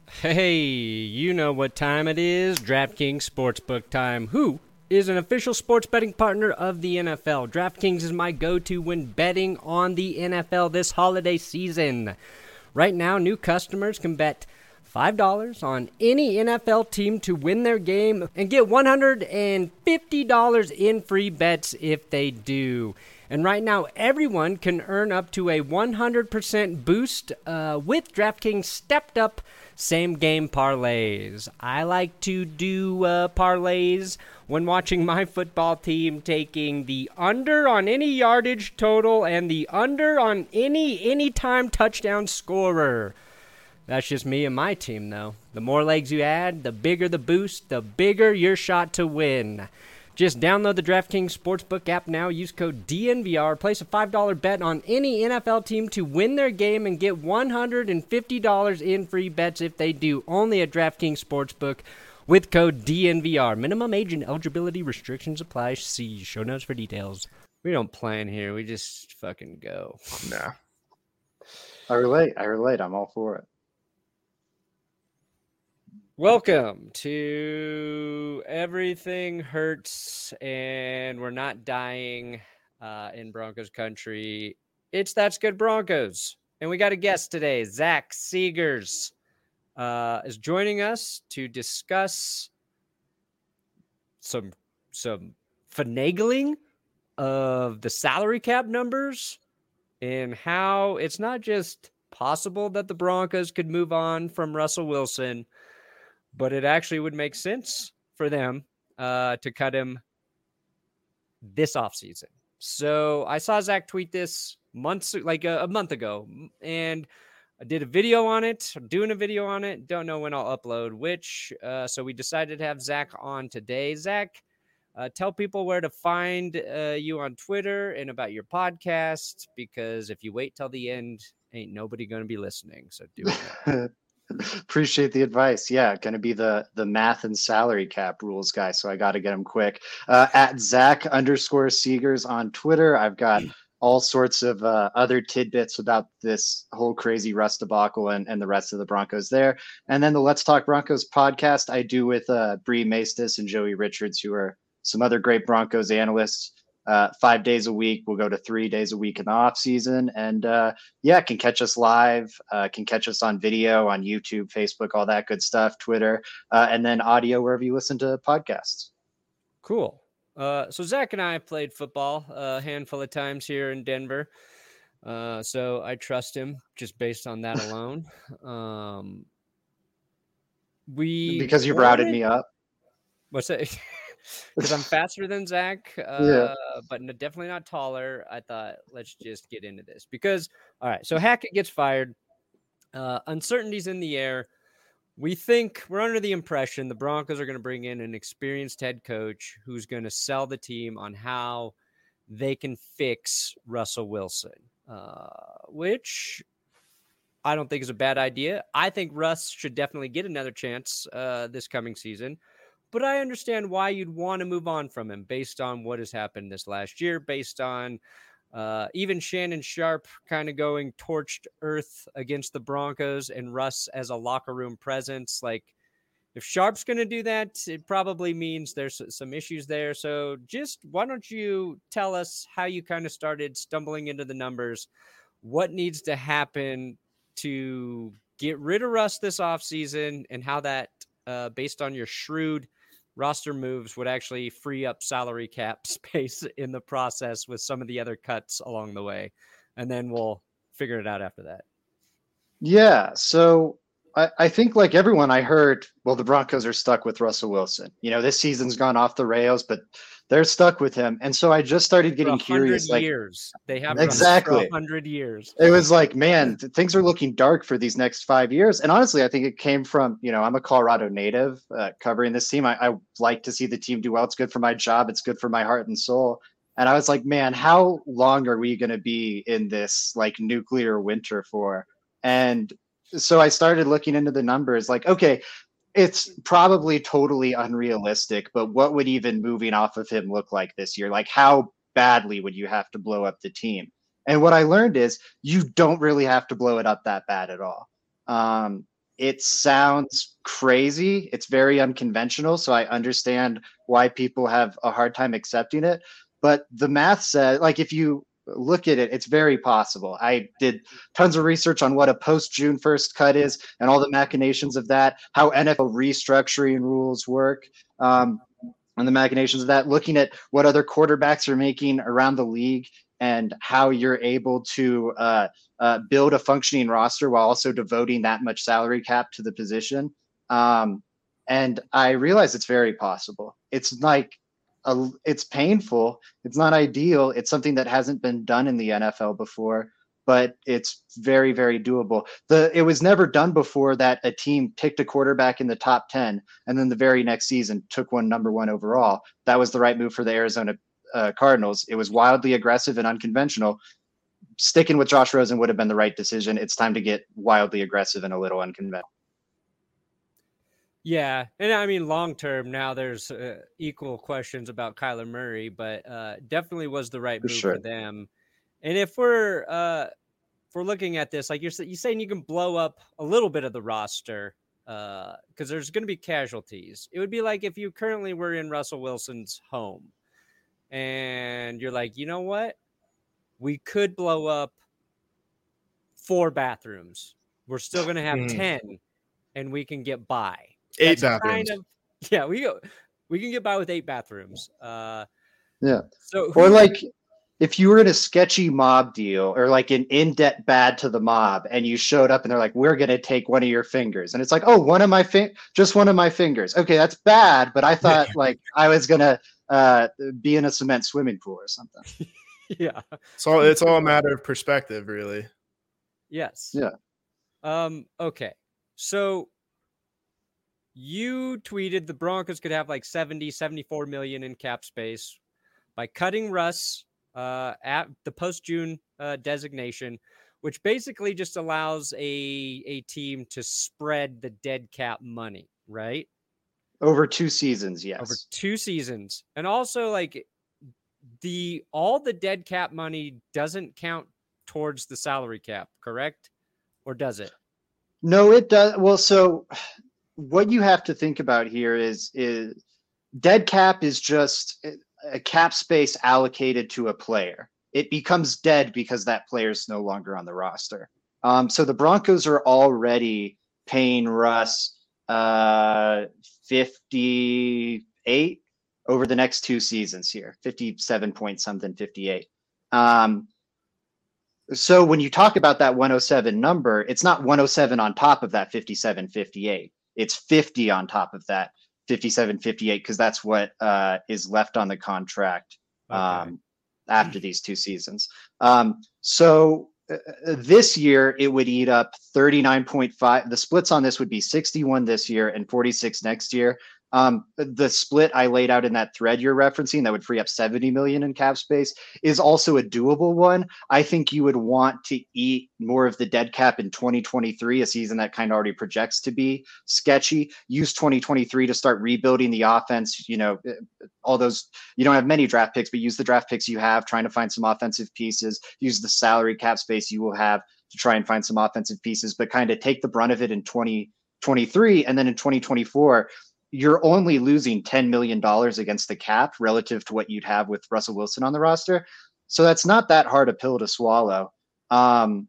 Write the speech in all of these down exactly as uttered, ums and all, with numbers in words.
Hey, you know what time it is. DraftKings Sportsbook time. Who is an official sports betting partner of the N F L? DraftKings is my go-to when betting on the N F L this holiday season. Right now, new customers can bet five dollars on any N F L team to win their game and get one hundred fifty dollars in free bets if they do. And right now, everyone can earn up to a one hundred percent boost uh, with DraftKings stepped up same game parlays. I like to do uh, parlays when watching my football team, taking the under on any yardage total and the under on any anytime touchdown scorer. That's just me and my team, though. The more legs you add, the bigger the boost, the bigger your shot to win. Just download the DraftKings Sportsbook app now. Use code D N V R. Place a five dollars bet on any N F L team to win their game and get one hundred fifty dollars in free bets if they do. Only at DraftKings Sportsbook with code D N V R. Minimum age and eligibility restrictions apply. See show notes for details. We don't plan here. We just fucking go. Nah. I relate. I relate. I'm all for it. Welcome to Everything Hurts and We're Not Dying uh, in Broncos country. It's That's Good Broncos. And we got a guest today, Zach Seegers, uh, is joining us to discuss some, some finagling of the salary cap numbers and how it's not just possible that the Broncos could move on from Russell Wilson, but it actually would make sense for them uh, to cut him this offseason. So I saw Zach tweet this months, like a, a month ago, and I did a video on it, doing a video on it. Don't know when I'll upload which. Uh, so we decided to have Zach on today. Zach, uh, tell people where to find uh, you on Twitter and about your podcast, because if you wait till the end, ain't nobody going to be listening. So do it. Appreciate the advice. Yeah, going to be the the math and salary cap rules guy, so I got to get them quick. Uh, at Zach underscore Seegers on Twitter. I've got all sorts of uh, other tidbits about this whole crazy Russ debacle and, and the rest of the Broncos there. And then the Let's Talk Broncos podcast I do with uh, Bree Maestas and Joey Richards, who are some other great Broncos analysts. Uh, five days a week. We'll go to three days a week in the off season. And uh, yeah, can catch us live, uh, can catch us on video, on YouTube, Facebook, all that good stuff, Twitter, uh, and then audio wherever you listen to podcasts. Cool. Uh, so Zach and I have played football a handful of times here in Denver. Uh, so I trust him just based on that alone. um, we Because you've routed me up. What's that? Because I'm faster than Zach, uh, yeah. but no, definitely not taller. I thought, let's just get into this. Because, all right, so Hackett gets fired. Uh, uncertainty's in the air. We think, we're under the impression the Broncos are going to bring in an experienced head coach who's going to sell the team on how they can fix Russell Wilson, uh, which I don't think is a bad idea. I think Russ should definitely get another chance uh, this coming season. But I understand why you'd want to move on from him based on what has happened this last year, based on uh, even Shannon Sharpe kind of going torched earth against the Broncos and Russ as a locker room presence. Like, if Sharpe's going to do that, it probably means there's some issues there. So just why don't you tell us how you kind of started stumbling into the numbers? What needs to happen to get rid of Russ this offseason, and how that, uh, based on your shrewd roster moves, would actually free up salary cap space in the process with some of the other cuts along the way. And then we'll figure it out after that. Yeah. So I, I think, like everyone, I heard, well, the Broncos are stuck with Russell Wilson. You know, this season's gone off the rails, but they're stuck with him. And so I just started getting curious. Like, years. They have exactly a hundred years. It was like, man, th- things are looking dark for these next five years. And honestly, I think it came from, you know, I'm a Colorado native uh, covering this team. I, I like to see the team do well. It's good for my job. It's good for my heart and soul. And I was like, man, how long are we going to be in this like nuclear winter for? And so I started looking into the numbers, like, okay, it's probably totally unrealistic, but what would even moving off of him look like this year? Like, how badly would you have to blow up the team? And what I learned is you don't really have to blow it up that bad at all. Um, it sounds crazy. It's very unconventional. So I understand why people have a hard time accepting it. But the math says, like, if you look at it, it's very possible. I did tons of research on what a post June first cut is and all the machinations of that, how N F L restructuring rules work. Um, and the machinations of that, looking at what other quarterbacks are making around the league and how you're able to uh, uh, build a functioning roster while also devoting that much salary cap to the position. Um, and I realize it's very possible. It's like, a, it's painful. It's not ideal. It's something that hasn't been done in the N F L before, but it's very, very doable. The it was never done before that a team picked a quarterback in the top ten and then the very next season took one number one overall. That was the right move for the Arizona uh, Cardinals. It was wildly aggressive and unconventional. Sticking with Josh Rosen would have been the right decision. It's time to get wildly aggressive and a little unconventional. Yeah, and I mean, long term, now there's uh, equal questions about Kyler Murray, but uh, definitely was the right For move sure. for them. And if we're uh, if we're looking at this, like you're you're saying, you can blow up a little bit of the roster because uh, there's going to be casualties. It would be like if you currently were in Russell Wilson's home, and you're like, you know what, we could blow up four bathrooms. We're still going to have mm. ten, and we can get by. Eight That's bathrooms. Kind of, yeah, we go. We can get by with eight bathrooms. Uh, yeah. So, who, or like, if you were in a sketchy mob deal or like an in-debt bad to the mob, and you showed up and they're like, "We're gonna take one of your fingers," and it's like, "Oh, one of my fin- just one of my fingers." Okay, that's bad, but I thought like I was gonna uh, be in a cement swimming pool or something. Yeah. So it's all a matter of perspective, really. Yes. Yeah. Um. Okay. So. You tweeted the Broncos could have like seventy, seventy-four million in cap space by cutting Russ uh, at the post-June uh, designation, which basically just allows a a team to spread the dead cap money, right? Over two seasons, yes. Over two seasons. And also like the all the dead cap money doesn't count towards the salary cap, correct? Or does it? No, it does. Well, so what you have to think about here is is dead cap is just a cap space allocated to a player. It becomes dead because that player is no longer on the roster. Um, so the Broncos are already paying Russ uh, fifty-eight over the next two seasons here, fifty-seven point something, fifty-eight. Um, so when you talk about that one oh seven number, it's not one oh seven on top of that fifty-seven, fifty-eight. It's fifty on top of that fifty-seven, fifty-eight, because that's what uh, is left on the contract um, okay. after these two seasons. Um, so uh, this year, it would eat up thirty-nine point five. The splits on this would be sixty-one this year and forty-six next year. Um, the split I laid out in that thread you're referencing that would free up seventy million in cap space is also a doable one. I think you would want to eat more of the dead cap in twenty twenty-three, a season that kind of already projects to be sketchy. Use twenty twenty-three to start rebuilding the offense. You know, all those, you don't have many draft picks, but use the draft picks you have, trying to find some offensive pieces. Use the salary cap space you will have to try and find some offensive pieces, but kind of take the brunt of it in twenty twenty-three. And then in twenty twenty-four, you're only losing ten million dollars against the cap relative to what you'd have with Russell Wilson on the roster. So that's not that hard a pill to swallow. Um,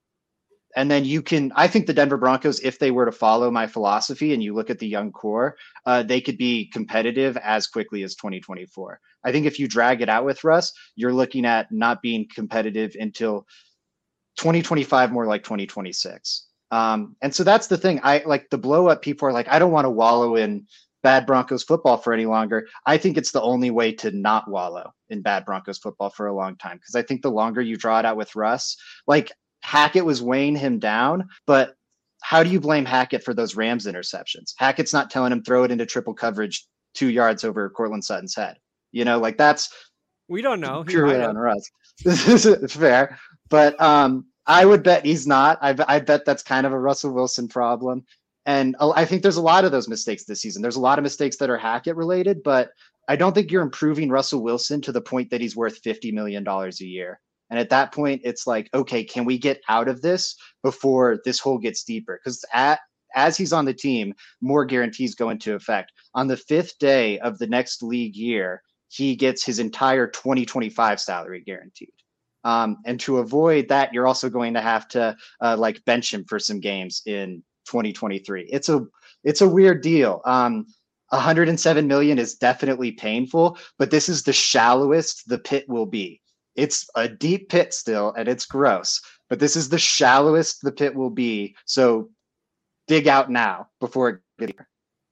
and then you can, I think the Denver Broncos, if they were to follow my philosophy and you look at the young core, uh, they could be competitive as quickly as twenty twenty-four. I think if you drag it out with Russ, you're looking at not being competitive until twenty twenty-five, more like twenty twenty-six. Um, and so that's the thing. I like the blow up. People are like, I don't want to wallow in bad Broncos football for any longer. I think it's the only way to not wallow in bad Broncos football for a long time. Cause I think the longer you draw it out with Russ, like Hackett was weighing him down, but how do you blame Hackett for those Rams interceptions? Hackett's not telling him throw it into triple coverage two yards over Cortland Sutton's head. You know, like that's, we don't know. Purely on Russ. This is fair. But, um, I would bet he's not. I, I bet that's kind of a Russell Wilson problem. And I think there's a lot of those mistakes this season. There's a lot of mistakes that are Hackett related, but I don't think you're improving Russell Wilson to the point that he's worth fifty million dollars a year. And at that point, it's like, okay, can we get out of this before this hole gets deeper? Because at as he's on the team, more guarantees go into effect. On the fifth day of the next league year, he gets his entire twenty twenty-five salary guaranteed. Um, and to avoid that, you're also going to have to uh, like bench him for some games in twenty twenty-three. It's a it's a weird deal. Um, one hundred seven million is definitely painful, but this is the shallowest the pit will be. It's a deep pit still, and it's gross, but this is the shallowest the pit will be. So dig out now before it gets here.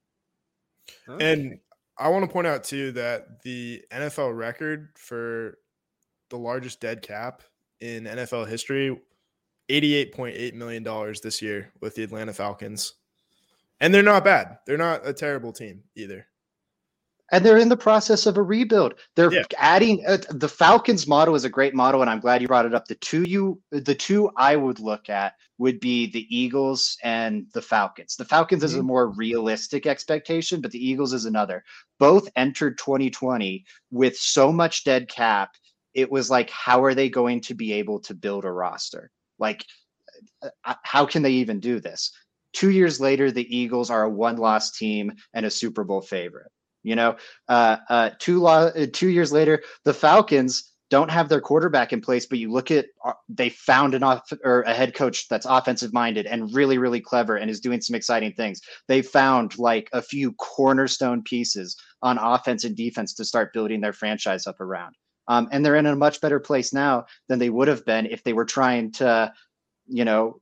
And I want to point out too that the N F L record for the largest dead cap in N F L history, eighty-eight point eight million dollars this year with the Atlanta Falcons. And they're not bad. They're not a terrible team either. And they're in the process of a rebuild. They're yeah. adding uh, the Falcons model is a great model, and I'm glad you brought it up. The two you, the two I would look at would be the Eagles and the Falcons. The Falcons mm-hmm. is a more realistic expectation, but the Eagles is another. Both entered twenty twenty with so much dead cap. It was like, how are they going to be able to build a roster? Like, uh, how can they even do this? Two years later, the Eagles are a one-loss team and a Super Bowl favorite. You know, uh, uh, two lo- uh, two years later, the Falcons don't have their quarterback in place, but you look at uh, they found an off or a head coach that's offensive minded and really, really clever and is doing some exciting things. They found like a few cornerstone pieces on offense and defense to start building their franchise up around. Um, and they're in a much better place now than they would have been if they were trying to, you know,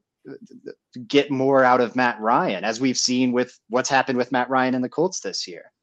get more out of Matt Ryan, as we've seen with what's happened with Matt Ryan and the Colts this year.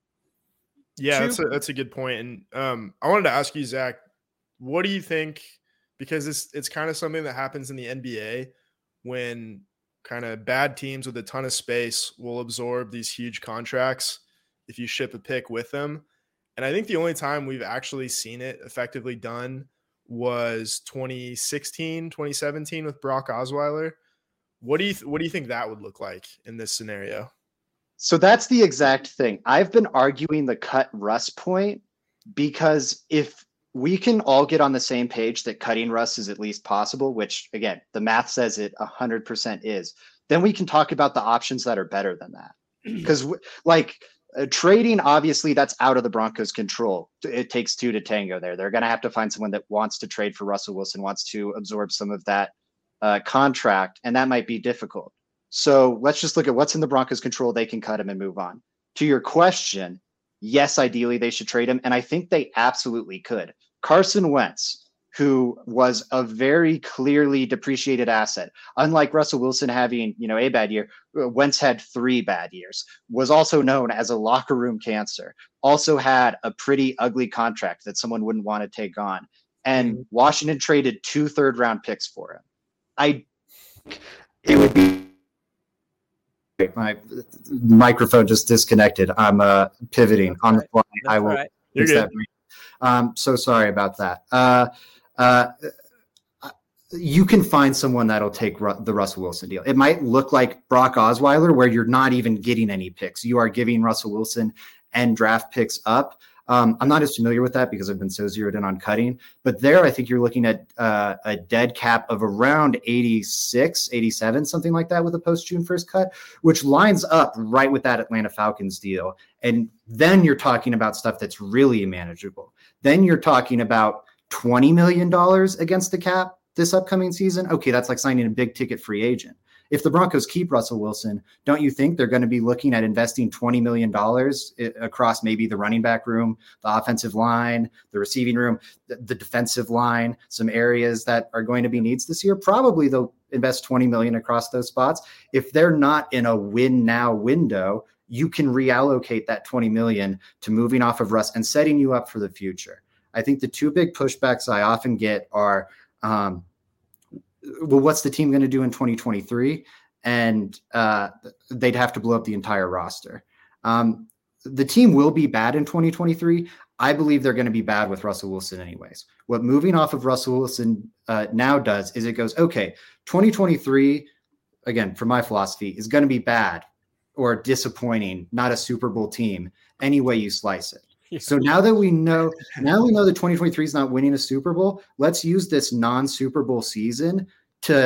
Yeah, that's a, that's a good point. And um, I wanted to ask you, Zach, what do you think? Because it's it's kind of something that happens in the N B A when kind of bad teams with a ton of space will absorb these huge contracts if you ship a pick with them. And I think the only time we've actually seen it effectively done was twenty sixteen, twenty seventeen with Brock Osweiler. What do you th- what do you think that would look like in this scenario? So that's the exact thing. I've been arguing the cut Russ point because if we can all get on the same page that cutting Russ is at least possible, which again, the math says it one hundred percent is, then we can talk about the options that are better than that. Because like uh, trading, obviously that's out of the Broncos' control. It takes two to tango there. They're going to have to find someone that wants to trade for Russell Wilson, wants to absorb some of that uh, contract, and that might be difficult. So let's just look at what's in the Broncos' control. They can cut him and move on. To your question, yes, ideally they should trade him, and I think they absolutely could. Carson Wentz, who was a very clearly depreciated asset, unlike Russell Wilson having, you know, a bad year, Wentz had three bad years, was also known as a locker room cancer, also had a pretty ugly contract that someone wouldn't want to take on. And mm-hmm. Washington traded two third round picks for him. I, it would be, my microphone just disconnected. I'm uh, pivoting That's on right. the fly. That's I will right. fix that. Um, so sorry about that. Uh, uh, you can find someone that'll take Ru- the Russell Wilson deal. It might look like Brock Osweiler, where you're not even getting any picks. You are giving Russell Wilson and draft picks up. Um, I'm not as familiar with that because I've been so zeroed in on cutting, but there I think you're looking at uh, a dead cap of around eighty-six, eighty-seven, something like that with a post-June first cut, which lines up right with that Atlanta Falcons deal. And then you're talking about stuff that's really manageable. Then you're talking about twenty million dollars against the cap this upcoming season. Okay, that's like signing a big ticket free agent. If the Broncos keep Russell Wilson, don't you think they're going to be looking at investing twenty million dollars across maybe the running back room, the offensive line, the receiving room, the, the defensive line, some areas that are going to be needs this year? Probably they'll invest twenty million dollars across those spots. If they're not in a win now window, you can reallocate that twenty million dollars to moving off of Russ and setting you up for the future. I think the two big pushbacks I often get are, um, well, what's the team going to do in twenty twenty-three? And uh, they'd have to blow up the entire roster. Um, the team will be bad in twenty twenty-three. I believe they're going to be bad with Russell Wilson anyways. What moving off of Russell Wilson uh, now does is it goes, okay, twenty twenty-three, again, from my philosophy, is going to be bad or disappointing, not a Super Bowl team, any way you slice it. So now that we know, now we know that twenty twenty-three is not winning a Super Bowl, let's use this non-Super Bowl season to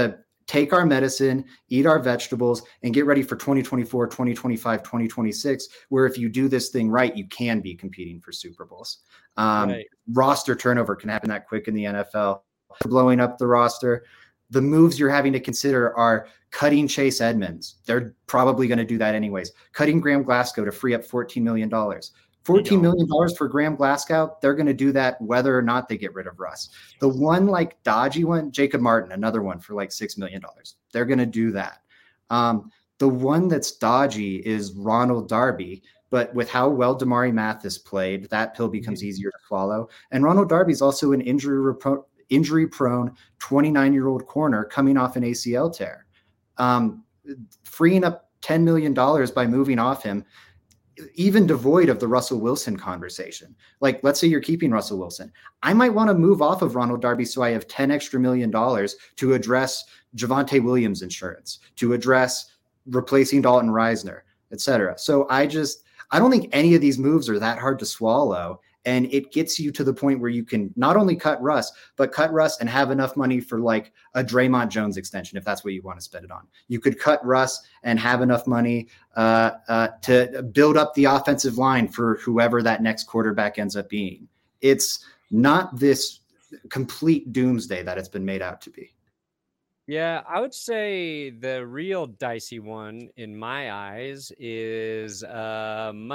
take our medicine, eat our vegetables, and get ready for twenty twenty-four, twenty twenty-five, twenty twenty-six, where if you do this thing right, you can be competing for Super Bowls. Um, right. Roster turnover can happen that quick in the N F L. Blowing up the roster. The moves you're having to consider are cutting Chase Edmonds. They're probably going to do that anyways. Cutting Graham Glasgow to free up fourteen million dollars. fourteen million dollars for Graham Glasgow, they're going to do that whether or not they get rid of Russ. The one like dodgy one, Jacob Martin, another one for like six million dollars. They're going to do that. Um, the one that's dodgy is Ronald Darby, but with how well Damari Mathis played, that pill becomes easier to swallow. And Ronald Darby is also an injury repro- injury-prone twenty-nine-year-old corner coming off an A C L tear. Um, freeing up ten million dollars by moving off him, even devoid of the Russell Wilson conversation. Like, let's say you're keeping Russell Wilson. I might want to move off of Ronald Darby so I have ten extra million dollars to address Javonte Williams insurance, to address replacing Dalton Reisner, et cetera. So I just, I don't think any of these moves are that hard to swallow. And it gets you to the point where you can not only cut Russ, but cut Russ and have enough money for like a Draymond Jones extension, if that's what you want to spend it on. You could cut Russ and have enough money uh, uh, to build up the offensive line for whoever that next quarterback ends up being. It's not this complete doomsday that it's been made out to be. Yeah, I would say the real dicey one in my eyes is um,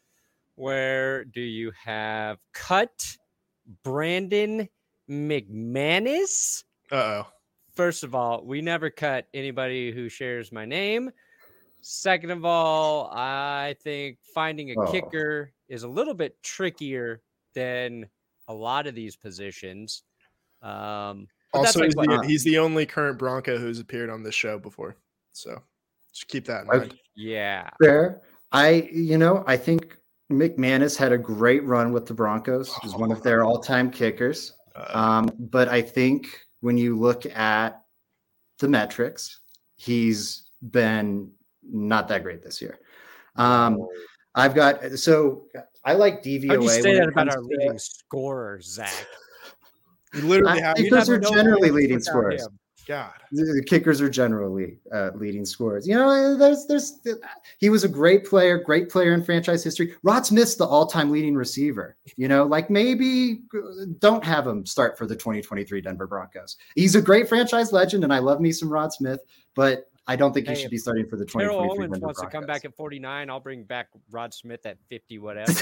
where do you have cut Brandon McManus? Uh-oh. First of all, we never cut anybody who shares my name. Second of all, I think finding a oh. kicker is a little bit trickier than a lot of these positions. Um, also, he's, like the, he's the only current Bronco who's appeared on this show before. So just keep that in mind. Yeah. Fair. I, you know, I think McManus had a great run with the Broncos. He's one of their all-time kickers. Um, but I think when you look at the metrics, he's been not that great this year. Um, I've got so I like D V O A. How do you say that about our leading scorer, Zach? You literally have kickers are generally leading scorers. Him. God, the kickers are generally uh, leading scorers. You know, there's, there's, he was a great player, great player in franchise history. Rod Smith's the all-time leading receiver. You know, like maybe don't have him start for the twenty twenty-three Denver Broncos. He's a great franchise legend, and I love me some Rod Smith, but I don't think he hey, should be starting for the twenty twenty-three Terrell Owens Denver wants Broncos. To come back at forty-nine. I'll bring back Rod Smith at fifty, whatever.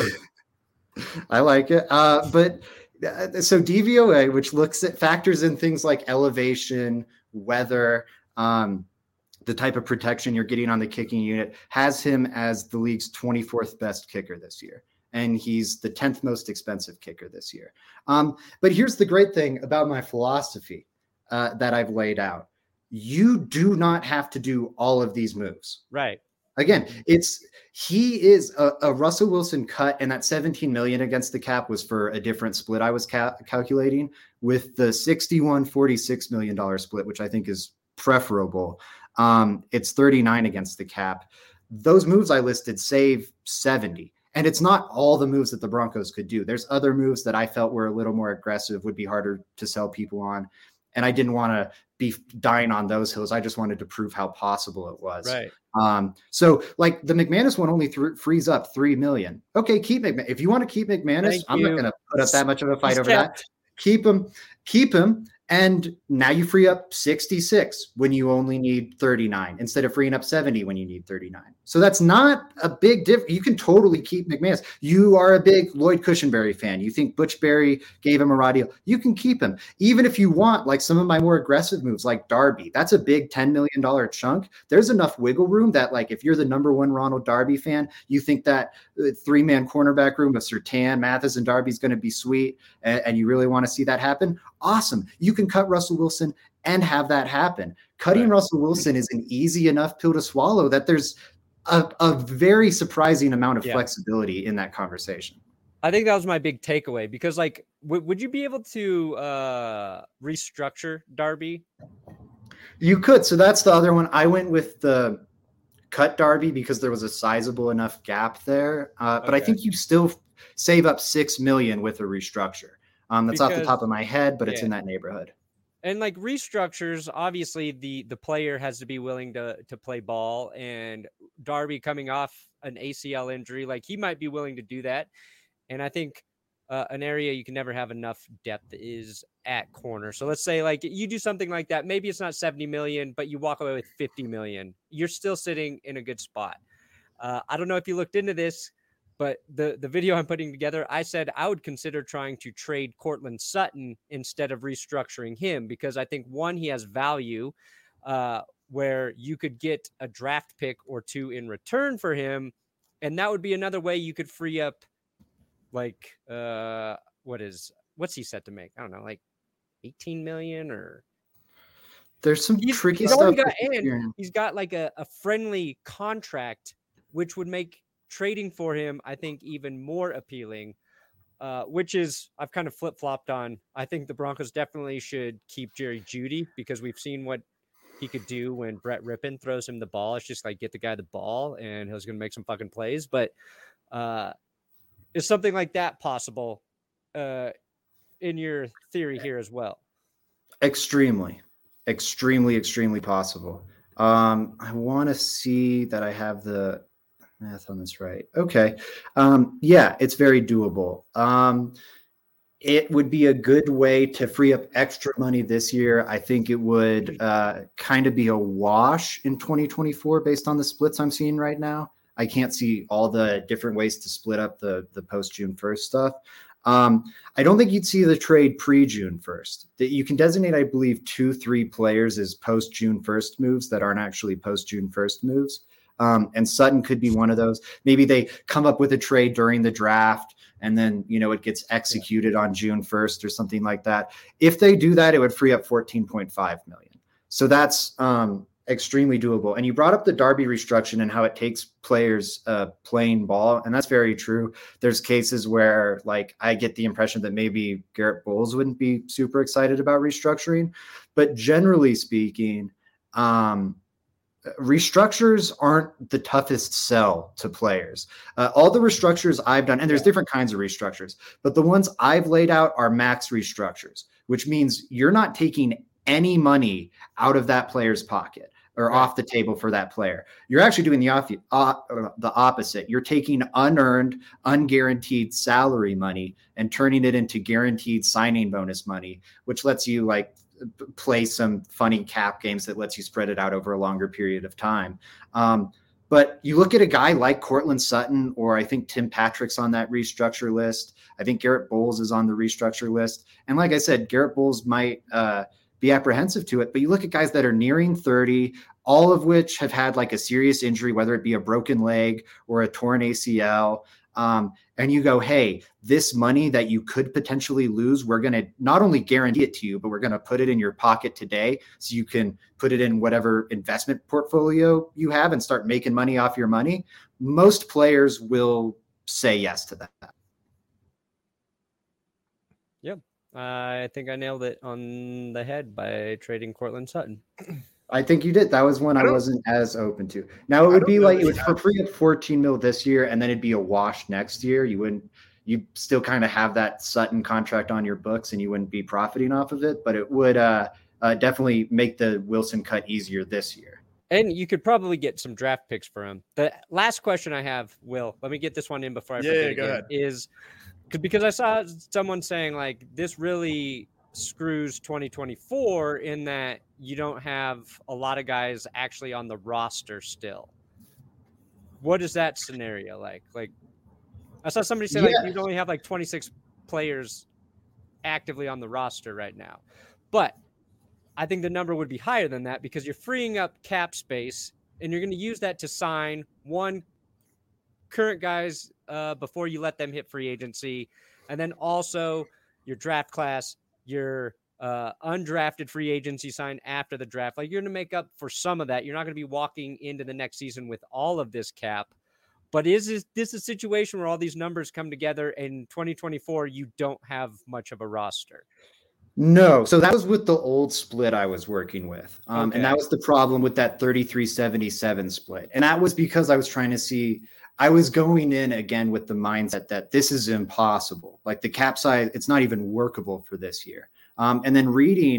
I like it, uh, but. So D V O A, which looks at factors in things like elevation, weather, um, the type of protection you're getting on the kicking unit, has him as the league's twenty-fourth best kicker this year. And he's the tenth most expensive kicker this year. Um, but here's the great thing about my philosophy uh, that I've laid out. You do not have to do all of these moves. Right. Again, it's he is a, a Russell Wilson cut, and that seventeen million against the cap was for a different split I was ca- calculating with the sixty-one forty-six million dollars split, which I think is preferable. Um, it's thirty-nine against the cap. Those moves I listed save seventy, and it's not all the moves that the Broncos could do. There's other moves that I felt were a little more aggressive, would be harder to sell people on, and I didn't want to be dying on those hills. I just wanted to prove how possible it was. Right. Um, so like the McManus one only th- frees up three million. Okay. Keep McManus. If you want to keep McManus, Thank I'm you. not going to put up that much of a fight He's over kept. that. Keep him, keep him. And now you free up sixty-six when you only need thirty-nine instead of freeing up seventy when you need thirty-nine. So that's not a big difference. You can totally keep McManus. You are a big Lloyd Cushenberry fan. You think Butch Berry gave him a raw deal. You can keep him. Even if you want like some of my more aggressive moves like Darby, that's a big ten million dollars chunk. There's enough wiggle room that like if you're the number one Ronald Darby fan, you think that uh, three-man cornerback room of Surtain, Mathis, and Darby is going to be sweet and, and you really want to see that happen, awesome. You can cut Russell Wilson and have that happen. Cutting right. Russell Wilson is an easy enough pill to swallow that there's a, a very surprising amount of yeah. flexibility in that conversation. I think that was my big takeaway because like, w- would you be able to uh, restructure Darby? You could. So that's the other one. I went with the cut Darby because there was a sizable enough gap there. Uh, but okay. I think you still save up six million with a restructure. Um, that's because, off the top of my head, but yeah. it's in that neighborhood. And like restructures, obviously the the player has to be willing to to play ball. And Darby coming off an A C L injury, like he might be willing to do that. And I think uh, an area you can never have enough depth is at corner. So let's say like you do something like that. Maybe it's not seventy million, but you walk away with fifty million. You're still sitting in a good spot. Uh, I don't know if you looked into this, but the, the video I'm putting together, I said I would consider trying to trade Courtland Sutton instead of restructuring him, because I think, one, he has value uh, where you could get a draft pick or two in return for him. And that would be another way you could free up, like, uh, what is, what's he set to make? I don't know, like eighteen million or. There's some he's, tricky he's stuff. Got, and he's got like a, a friendly contract, which would make trading for him, I think, even more appealing, uh, which is I've kind of flip-flopped on. I think the Broncos definitely should keep Jerry Jeudy, because we've seen what he could do when Brett Rippon throws him the ball. It's just like, get the guy the ball and he's going to make some fucking plays. But uh, is something like that possible uh, in your theory here as well? Extremely, extremely, extremely possible. Um, I want to see that I have the math on this right. Okay. Um, yeah, it's very doable. Um, it would be a good way to free up extra money this year. I think it would uh, kind of be a wash in twenty twenty-four based on the splits I'm seeing right now. I can't see all the different ways to split up the, the post-June first stuff. Um, I don't think you'd see the trade pre-June first. That you can designate, I believe, two, three players as post-June first moves that aren't actually post-June first moves. Um, and Sutton could be one of those. Maybe they come up with a trade during the draft and then, you know, it gets executed on June first or something like that. If they do that, it would free up fourteen point five million. So that's um, extremely doable. And you brought up the Darby restructuring and how it takes players uh, playing ball. And that's very true. There's cases where, like, I get the impression that maybe Garrett Bowles wouldn't be super excited about restructuring, but generally speaking, um, restructures aren't the toughest sell to players. Uh, all the restructures I've done, and there's different kinds of restructures, but the ones I've laid out are max restructures, which means you're not taking any money out of that player's pocket or right. off the table for that player. You're actually doing the, off, uh, the opposite. You're taking unearned, unguaranteed salary money and turning it into guaranteed signing bonus money, which lets you like play some funny cap games that lets you spread it out over a longer period of time. Um, but you look at a guy like Courtland Sutton, or I think Tim Patrick's on that restructure list. I think Garrett Bowles is on the restructure list. And like I said, Garrett Bowles might uh, be apprehensive to it, but you look at guys that are nearing thirty, all of which have had like a serious injury, whether it be a broken leg or a torn A C L. Um, and you go, hey, this money that you could potentially lose, we're going to not only guarantee it to you, but we're going to put it in your pocket today so you can put it in whatever investment portfolio you have and start making money off your money. Most players will say yes to that. Yeah, uh, I think I nailed it on the head by trading Courtland Sutton. I think you did. That was one I, I wasn't as open to. Now it would be like, it would for free at fourteen mil this year, and then it'd be a wash next year. You wouldn't, you still kind of have that Sutton contract on your books and you wouldn't be profiting off of it, but it would uh, uh, definitely make the Wilson cut easier this year. And you could probably get some draft picks for him. The last question I have, Will, let me get this one in before I yeah, forget yeah, again, go ahead. is because I saw someone saying like this really screws twenty twenty-four in that you don't have a lot of guys actually on the roster still. What is that scenario like? Like I saw somebody say yeah. like you only have like twenty-six players actively on the roster right now. But I think the number would be higher than that because you're freeing up cap space and you're going to use that to sign one current guys uh, before you let them hit free agency. And then also your draft class, your uh, undrafted free agency sign after the draft. Like you're going to make up for some of that. You're not going to be walking into the next season with all of this cap. But is this, this a situation where all these numbers come together in twenty twenty-four, you don't have much of a roster? No. So that was with the old split I was working with. Um, okay. And that was the problem with that thirty-three seventy-seven split. And that was because I was trying to see, I was going in again with the mindset that this is impossible. Like the cap size, it's not even workable for this year. Um, and then reading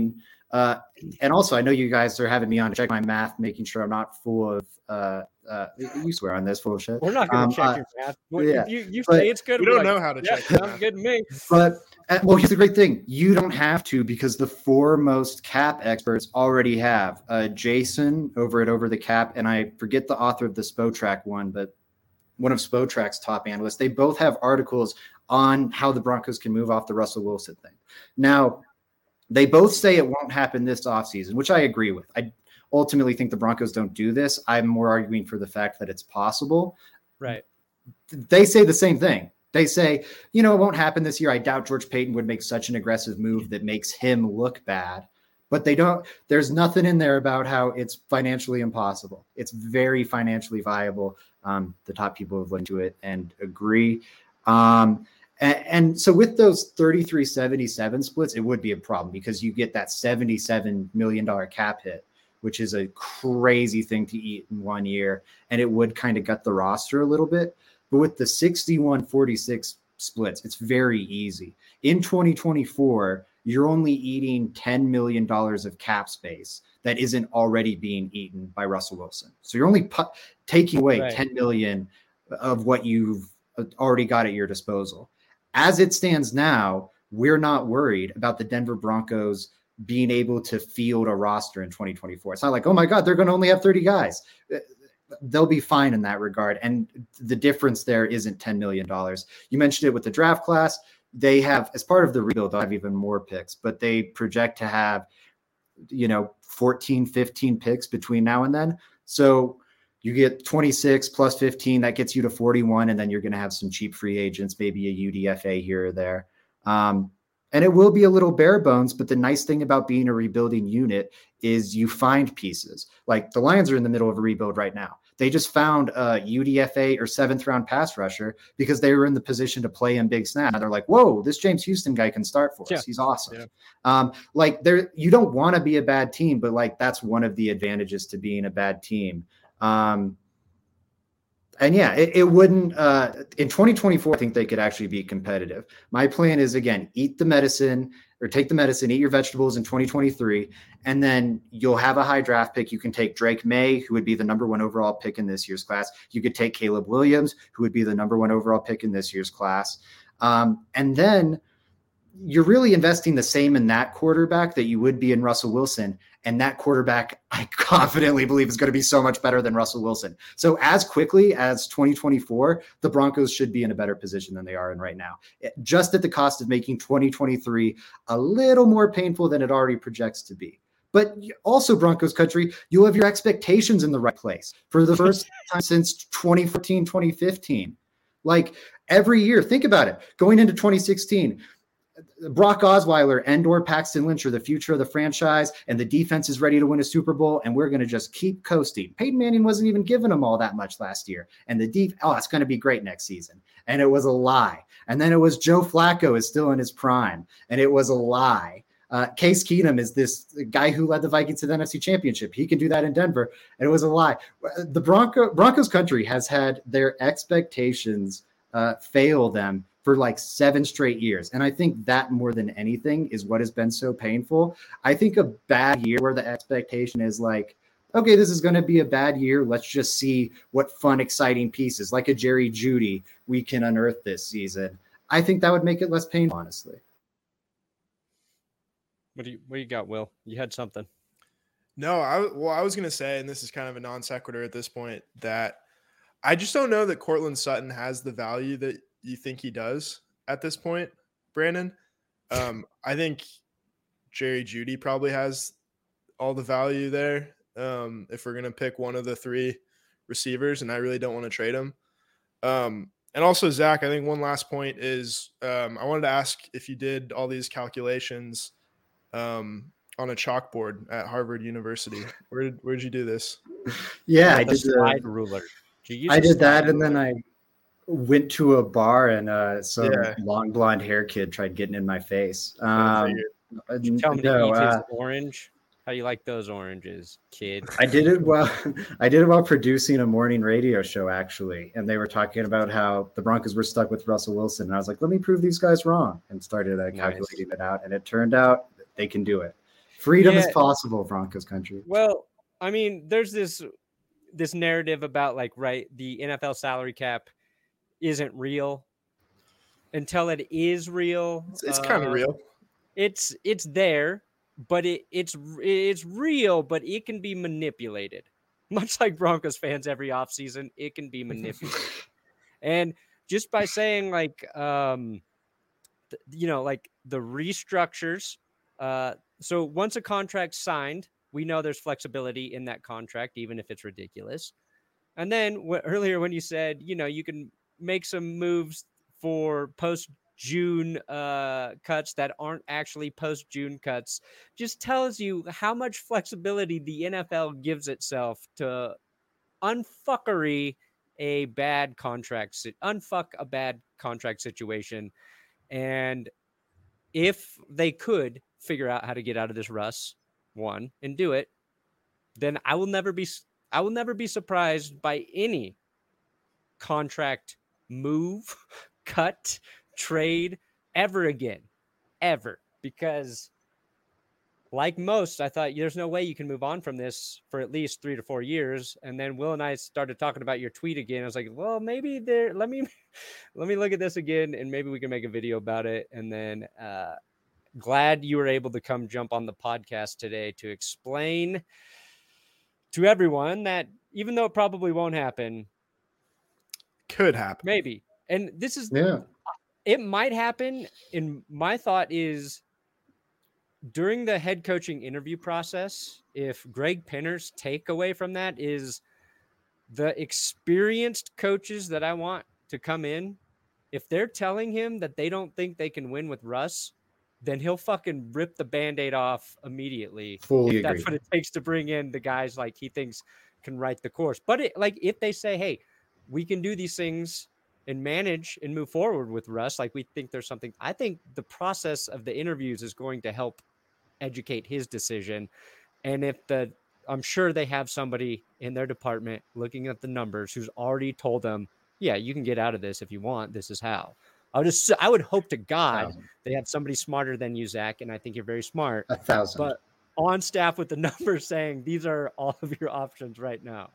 Uh, and also, I know you guys are having me on to check my math, making sure I'm not full of. Uh, uh, you swear on this full of shit. We're not going to um, check uh, your math. Well, yeah, if you you but say it's good, we don't like, know how to yeah, check. Sounds good to me. But uh, well, here's the great thing: you don't have to, because the foremost cap experts already have. Uh, Jason over at Over the Cap, and I forget the author of the Spotrac one, but one of Spotrac's top analysts. They both have articles on how the Broncos can move off the Russell Wilson thing. Now, they both say it won't happen this offseason, which I agree with. I ultimately think the Broncos don't do this. I'm more arguing for the fact that it's possible. Right. They say the same thing. They say, you know, it won't happen this year. I doubt George Paton would make such an aggressive move that makes him look bad. But they don't, there's nothing in there about how it's financially impossible. It's very financially viable. Um, the top people have looked into it and agree. Um, and, and so with those thirty-three seventy-seven splits, it would be a problem because you get that seventy-seven million dollars cap hit, which is a crazy thing to eat in one year. And it would kind of gut the roster a little bit. But with the sixty-one forty-six splits, it's very easy. In twenty twenty-four, you're only eating ten million dollars of cap space that isn't already being eaten by Russell Wilson. So you're only pu- taking away right. ten million of what you've already got at your disposal. As it stands now, we're not worried about the Denver Broncos being able to field a roster in twenty twenty-four. It's not like, oh my God, they're going to only have thirty guys. They'll be fine in that regard. And the difference there isn't ten million dollars. You mentioned it with the draft class. They have, as part of the rebuild, they'll have even more picks, but they project to have, you know, fourteen, fifteen picks between now and then. So you get twenty-six plus fifteen, that gets you to forty-one. And then you're going to have some cheap free agents, maybe a U D F A here or there. Um, and it will be a little bare bones, but the nice thing about being a rebuilding unit is you find pieces. Like the Lions are in the middle of a rebuild right now. They just found a U D F A or seventh round pass rusher because they were in the position to play in big snap. They're like, whoa, this James Houston guy can start for us. Yeah. He's awesome. Yeah. Um, like there, you don't want to be a bad team, but like, that's one of the advantages to being a bad team. Um, and yeah, it, it wouldn't, uh, in twenty twenty-four, I think they could actually be competitive. My plan is, again, eat the medicine or take the medicine, eat your vegetables in twenty twenty-three, and then you'll have a high draft pick. You can take Drake May, who would be the number one overall pick in this year's class. You could take Caleb Williams, who would be the number one overall pick in this year's class. Um, and then you're really investing the same in that quarterback that you would be in Russell Wilson. And that quarterback, I confidently believe, is going to be so much better than Russell Wilson. So as quickly as twenty twenty-four, the Broncos should be in a better position than they are in right now, just at the cost of making twenty twenty-three a little more painful than it already projects to be. But also, Broncos country, you'll have your expectations in the right place for the first time since twenty fourteen, twenty fifteen. Like every year, think about it. Going into twenty sixteen, Brock Osweiler and or Paxton Lynch are the future of the franchise, and the defense is ready to win a Super Bowl, and we're going to just keep coasting. Peyton Manning wasn't even giving them all that much last year, and the deep, oh, it's going to be great next season. And it was a lie. And then it was Joe Flacco is still in his prime, and it was a lie. Uh, Case Keenum is this guy who led the Vikings to the N F C Championship. He can do that in Denver, and it was a lie. The Bronco, Broncos country has had their expectations uh, fail them for like seven straight years. And I think that more than anything is what has been so painful. I think a bad year where the expectation is like, okay, this is going to be a bad year. Let's just see what fun, exciting pieces like a Jerry Jeudy we can unearth this season. I think that would make it less painful, honestly. What do you, what do you got, Will? You had something. No, I, well, I was going to say, and this is kind of a non sequitur at this point, that I just don't know that Courtland Sutton has the value that you think he does at this point, Brandon. Um, I think Jerry Jeudy probably has all the value there. Um, if we're going to pick one of the three receivers, and I really don't want to trade him. Um, and also Zach, I think one last point is, um, I wanted to ask if you did all these calculations, um, on a chalkboard at Harvard University. Where did, where did you do this? Yeah, I did the slide ruler. I did that. And then I went to a bar and uh, some yeah. long blonde hair kid tried getting in my face. Um, Tell me no, to eat uh, his orange. How you like those oranges, kid? I did it while I did it while producing a morning radio show, actually, and they were talking about how the Broncos were stuck with Russell Wilson, and I was like, "Let me prove these guys wrong," and started uh, calculating nice. it out, and it turned out they can do it. Freedom yeah. is possible, Broncos country. Well, I mean, there's this this narrative about like, right, the N F L salary cap isn't real until it is real. It's, it's uh, kind of real. It's it's there, but it it's it's real, but it can be manipulated. Much like Broncos fans every offseason, it can be manipulated. And just by saying like, um, th- you know, like the restructures. Uh, so once a contract's signed, we know there's flexibility in that contract, even if it's ridiculous. And then w- earlier when you said, you know, you can make some moves for post June uh, cuts that aren't actually post June cuts, just tells you how much flexibility the N F L gives itself to unfuckery a bad contract, unfuck a bad contract situation. And if they could figure out how to get out of this Russ one and do it, then I will never be, I will never be surprised by any contract move, cut, trade ever again, ever. Because like most, I thought there's no way you can move on from this for at least three to four years. And then Will and I started talking about your tweet again. I was like, well, maybe there, let me, let me look at this again and maybe we can make a video about it. And then, uh, glad you were able to come jump on the podcast today to explain to everyone that even though it probably won't happen, could happen. Maybe. And this is, yeah, it might happen. And my thought is during the head coaching interview process, if Greg Penner's takeaway from that is the experienced coaches that I want to come in, if they're telling him that they don't think they can win with Russ, then he'll fucking rip the Band-Aid off immediately. Fully if that's agree. what it takes to bring in the guys like he thinks can write the course. But it, like if they say, hey, we can do these things and manage and move forward with Russ, like we think there's something, I think the process of the interviews is going to help educate his decision. And if the, I'm sure they have somebody in their department looking at the numbers who's already told them, yeah, you can get out of this if you want. This is how. I would just, I would hope to God they have somebody smarter than you, Zach, and I think you're very smart. A thousand. But on staff with the numbers saying these are all of your options right now.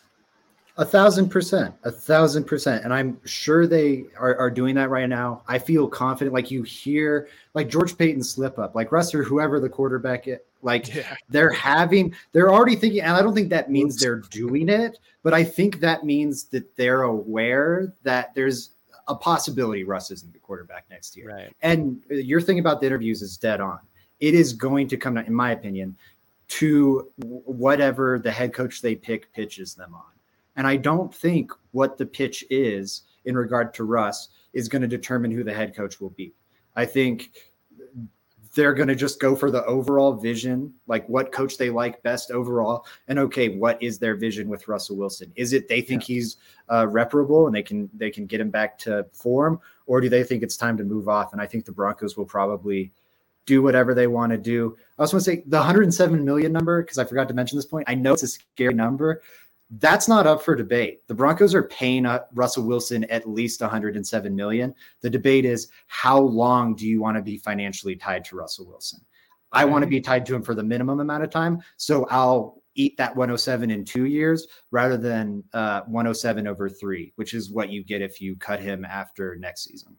A thousand percent, a thousand percent. And I'm sure they are, are doing that right now. I feel confident. Like you hear like George Payton slip up, like Russ or whoever the quarterback is, like yeah. they're having, they're already thinking, and I don't think that means Oops. they're doing it, but I think that means that they're aware that there's a possibility Russ isn't the quarterback next year. Right. And your thing about the interviews is dead on. It is going to come, in my opinion, to whatever the head coach they pick pitches them on. And I don't think what the pitch is in regard to Russ is going to determine who the head coach will be. I think they're going to just go for the overall vision, like what coach they like best overall. And okay, what is their vision with Russell Wilson? Is it they think yeah. he's uh, reparable and they can they can get him back to form, or do they think it's time to move off? And I think the Broncos will probably do whatever they want to do. I also want to say the one hundred seven million number, because I forgot to mention this point. I know it's a scary number. That's not up for debate. The Broncos are paying uh, Russell Wilson at least one hundred seven million dollars. The debate is how long do you want to be financially tied to Russell Wilson? I want to be tied to him for the minimum amount of time. So I'll eat that one hundred seven in two years rather than uh, one hundred seven over three, which is what you get if you cut him after next season.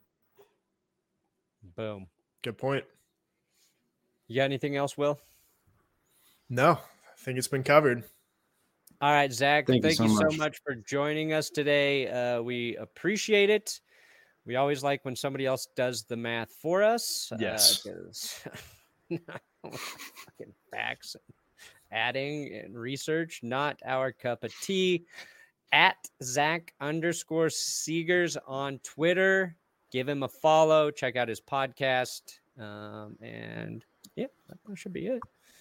Boom. Good point. You got anything else, Will? No, I think it's been covered. All right, Zach, thank, thank you, so, you much. so much for joining us today. Uh, we appreciate it. We always like when somebody else does the math for us. Yes. Uh, fucking facts, and adding and research, not our cup of tea. At Zach underscore Seegers on Twitter. Give him a follow. Check out his podcast. Um, and yeah, that should be it.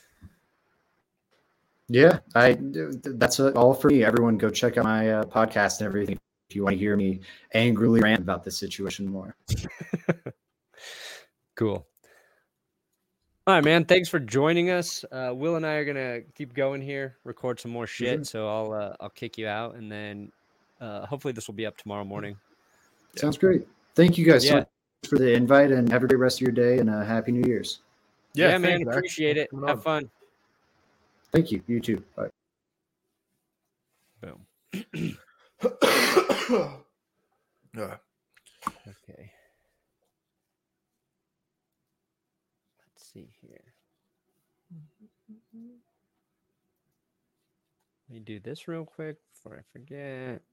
Yeah, I that's all for me. Everyone go check out my uh, podcast and everything if you want to hear me angrily rant about this situation more. Cool. All right, man. Thanks for joining us. Uh, Will and I are gonna keep going here, record some more shit. Mm-hmm. So I'll uh, I'll kick you out, and then uh, hopefully this will be up tomorrow morning. Sounds great. Thank you guys yeah. so much for the invite, and have a great rest of your day, and uh, happy New Year's. Yeah, yeah man, appreciate it. Have on. fun. Thank you. You too. Bye. Boom. uh. Okay. Let's see here. Let me do this real quick before I forget.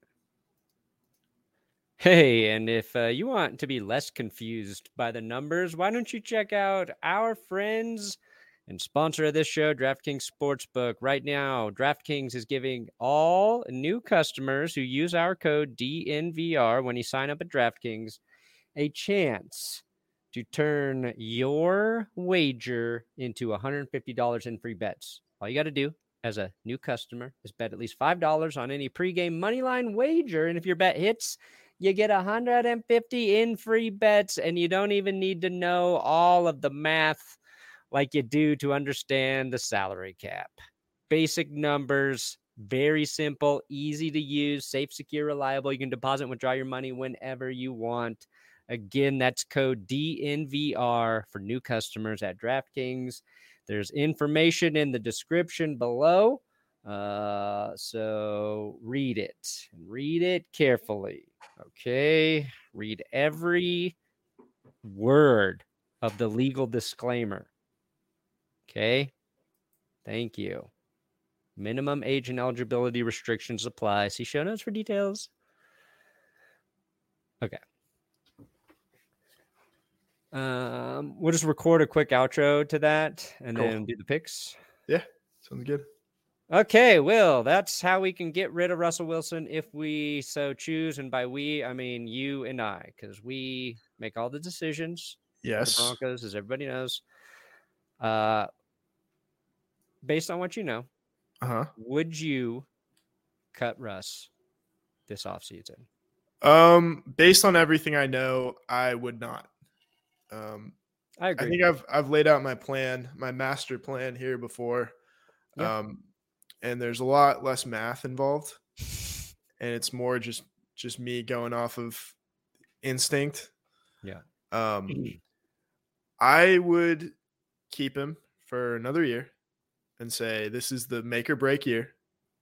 Hey, and if uh, you want to be less confused by the numbers, why don't you check out our friends and sponsor of this show, DraftKings Sportsbook. Right now, DraftKings is giving all new customers who use our code D N V R when you sign up at DraftKings a chance to turn your wager into one hundred fifty dollars in free bets. All you got to do as a new customer is bet at least five dollars on any pregame moneyline wager. And if your bet hits, you get one hundred fifty in free bets, and you don't even need to know all of the math like you do to understand the salary cap. Basic numbers, very simple, easy to use, safe, secure, reliable. You can deposit and withdraw your money whenever you want. Again, that's code D N V R for new customers at DraftKings. There's information in the description below. Uh, so read it and read it carefully. Okay. Read every word of the legal disclaimer. Okay. Thank you. Minimum age and eligibility restrictions apply. See show notes for details. Okay. Um, we'll just record a quick outro to that and cool. then do the picks. Yeah. Sounds good. Okay, Will, that's how we can get rid of Russell Wilson if we so choose. And by we, I mean you and I, because we make all the decisions. Yes. The Broncos, as everybody knows. Uh, based on what you know, uh-huh. would you cut Russ this offseason? Um, based on everything I know, I would not. Um, I agree. I think I've I've laid out my plan, my master plan here before. Yep. Um, and there's a lot less math involved, and it's more just just me going off of instinct. Yeah. Um, I would keep him for another year and say this is the make or break year.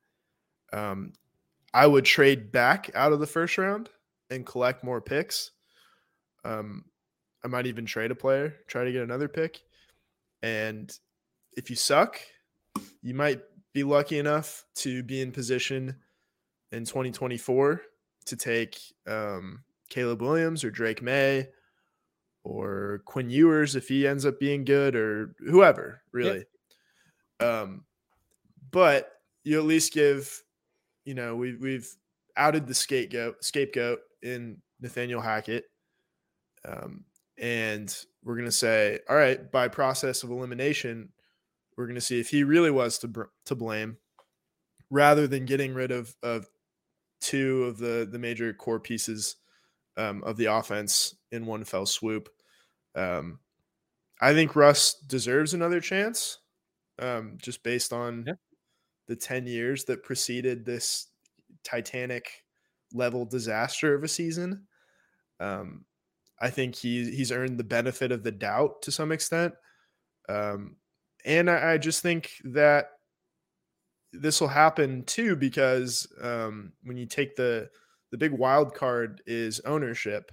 Um, I would trade back out of the first round and collect more picks. Um, I might even trade a player, try to get another pick. And if you suck, you might be lucky enough to be in position in twenty twenty-four to take um, Caleb Williams or Drake May or Quinn Ewers if he ends up being good, or whoever, really. Yep. Um, but you at least give, you know, we, we've outed the scapegoat, scapegoat in Nathaniel Hackett. Um, and we're going to say, all right, by process of elimination, we're going to see if he really was to br- to blame, rather than getting rid of, of two of the, the major core pieces um, of the offense in one fell swoop. Um, I think Russ deserves another chance, um, just based on yeah. the ten years that preceded this Titanic level disaster of a season. Um, I think he he's earned the benefit of the doubt to some extent. Um, and I, I just think that this will happen too, because um, when you take the, the big wild card is ownership.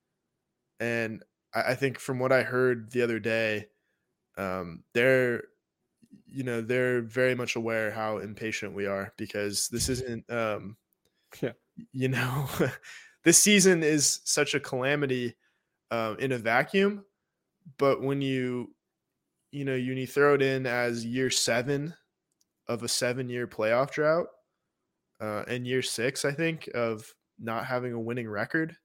And I, I think from what I heard the other day, um, they're, you know, they're very much aware how impatient we are, because this isn't, um, yeah. you know, this season is such a calamity uh, in a vacuum. But when you, you know, you, you throw it in as year seven of a seven-year playoff drought, uh, and year six, I think, of not having a winning record,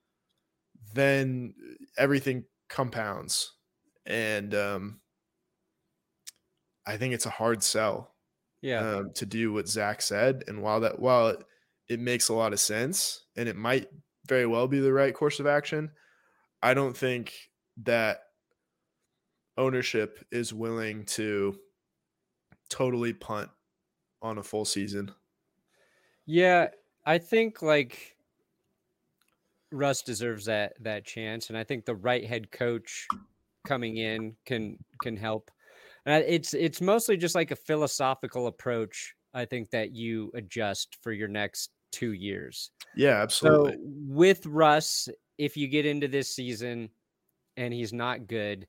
then everything compounds. And um, I think it's a hard sell yeah. um, to do what Zach said. And while that, while it, it makes a lot of sense, and it might very well be the right course of action, I don't think that ownership is willing to totally punt on a full season. Yeah, I think like Russ deserves that that chance, and I think the right head coach coming in can can help. And it's it's mostly just like a philosophical approach, I think, that you adjust for your next two years. Yeah, absolutely. So with Russ, if you get into this season and he's not good,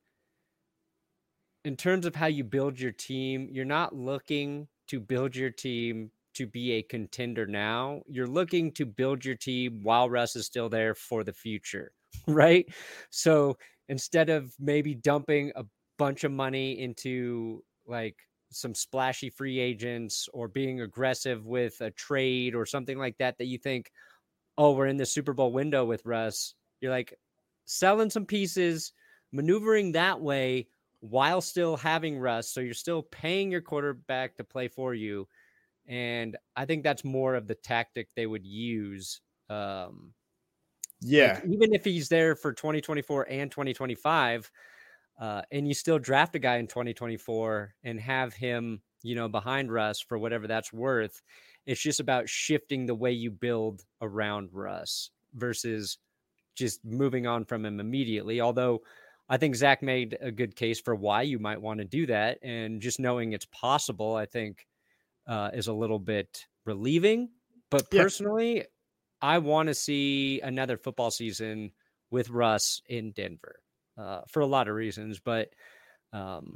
in terms of how you build your team, you're not looking to build your team to be a contender now. You're looking to build your team while Russ is still there for the future, right? So instead of maybe dumping a bunch of money into like some splashy free agents or being aggressive with a trade or something like that, that you think, oh, we're in the Super Bowl window with Russ, you're like selling some pieces, maneuvering that way while still having Russ. So you're still paying your quarterback to play for you. And I think that's more of the tactic they would use. Um, yeah. Like even if he's there for twenty twenty-four and twenty twenty-five, uh, and you still draft a guy in twenty twenty-four and have him, you know, behind Russ for whatever that's worth, it's just about shifting the way you build around Russ versus just moving on from him immediately. Although I think Zach made a good case for why you might want to do that. And just knowing it's possible, I think, uh, is a little bit relieving. But personally, yeah. I want to see another football season with Russ in Denver uh, for a lot of reasons. But um,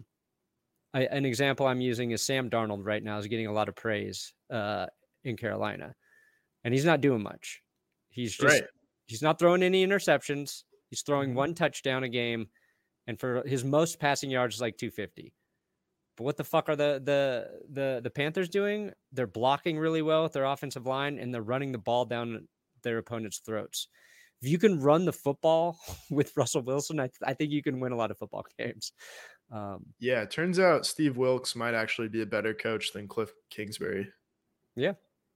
I, an example I'm using is Sam Darnold right now is getting a lot of praise uh, in Carolina. And he's not doing much. He's just right. He's not throwing any interceptions. He's throwing mm-hmm. one touchdown a game. And for his most passing yards is like two fifty. But what the fuck are the the the the Panthers doing? They're blocking really well with their offensive line, and they're running the ball down their opponent's throats. If you can run the football with Russell Wilson, I, I think you can win a lot of football games. Um, yeah, it turns out Steve Wilkes might actually be a better coach than Cliff Kingsbury. Yeah,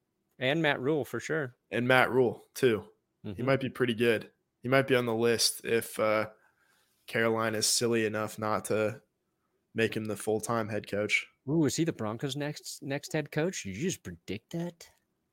and Matt Rule for sure. And Matt Rule too. Mm-hmm. He might be pretty good. He might be on the list if uh, Carolina is silly enough not to make him the full-time head coach. Ooh, is he the Broncos' next next head coach? Did you just predict that?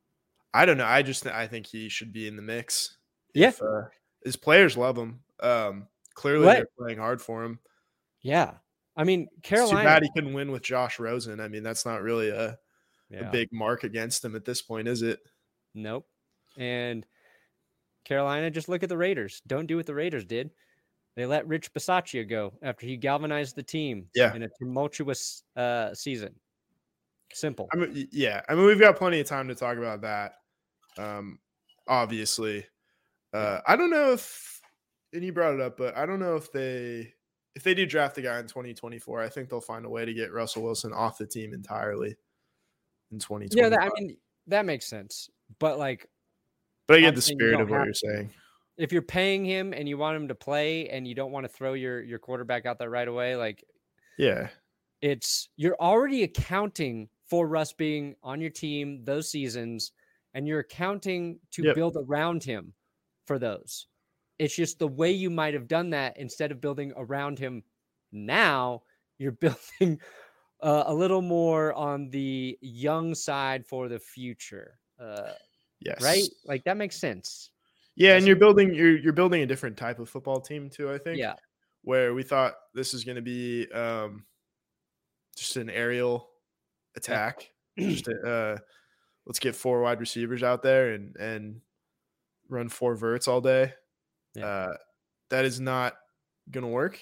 I don't know. I just I think he should be in the mix. Yeah. If, uh, his players love him. Um, clearly, what? They're playing hard for him. Yeah. I mean, Carolina. It's too bad he couldn't win with Josh Rosen. I mean, that's not really a, yeah. a big mark against him at this point, is it? Nope. And Carolina, just look at the Raiders. Don't do what the Raiders did. They let Rich Bisaccia go after he galvanized the team yeah. in a tumultuous uh, season. Simple. I mean, yeah. I mean, we've got plenty of time to talk about that. Um, obviously, uh, I don't know if, and you brought it up, but I don't know if they, if they do draft a guy in twenty twenty-four, I think they'll find a way to get Russell Wilson off the team entirely in twenty twenty-five. Yeah, that, I mean, that makes sense. But like, but I get the spirit of what you're saying. If you're paying him and you want him to play and you don't want to throw your, your quarterback out there right away, like, yeah, it's, you're already accounting for Russ being on your team those seasons, and you're accounting to yep. build around him for those. It's just the way you might have done that. Instead of building around him now, you're building uh, a little more on the young side for the future. Uh, yes. Right? Like that makes sense. Yeah, and you're building you're you're building a different type of football team too, I think. Yeah. Where we thought this is going to be um, just an aerial attack. Yeah. just a, uh, let's get four wide receivers out there and and run four verts all day. Yeah. Uh, that is not going to work.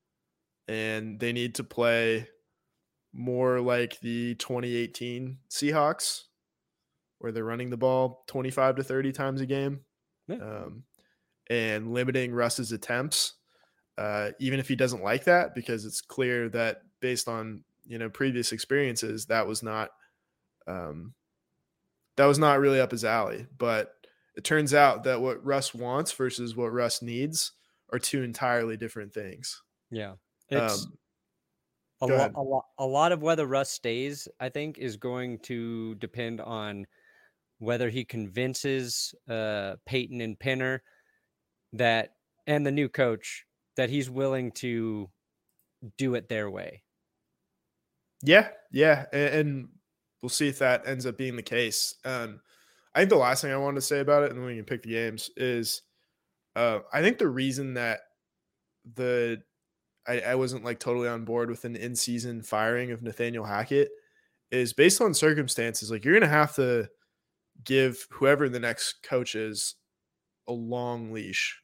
And they need to play more like the twenty eighteen Seahawks, where they're running the ball twenty-five to thirty times a game. Yeah. Um, and limiting Russ's attempts, uh, even if he doesn't like that, because it's clear that based on, you know, previous experiences, that was not, um, that was not really up his alley. But it turns out that what Russ wants versus what Russ needs are two entirely different things. Yeah. It's um, a, lo- a, lo- a lot of whether Russ stays, I think, is going to depend on whether he convinces uh, Peyton and Penner that, and the new coach, that he's willing to do it their way. Yeah, yeah, and, and we'll see if that ends up being the case. Um, I think the last thing I wanted to say about it, and then we can pick the games, is uh, I think the reason that the I, I wasn't like totally on board with an in-season firing of Nathaniel Hackett is based on circumstances. Like, you're going to have to give whoever the next coach is a long leash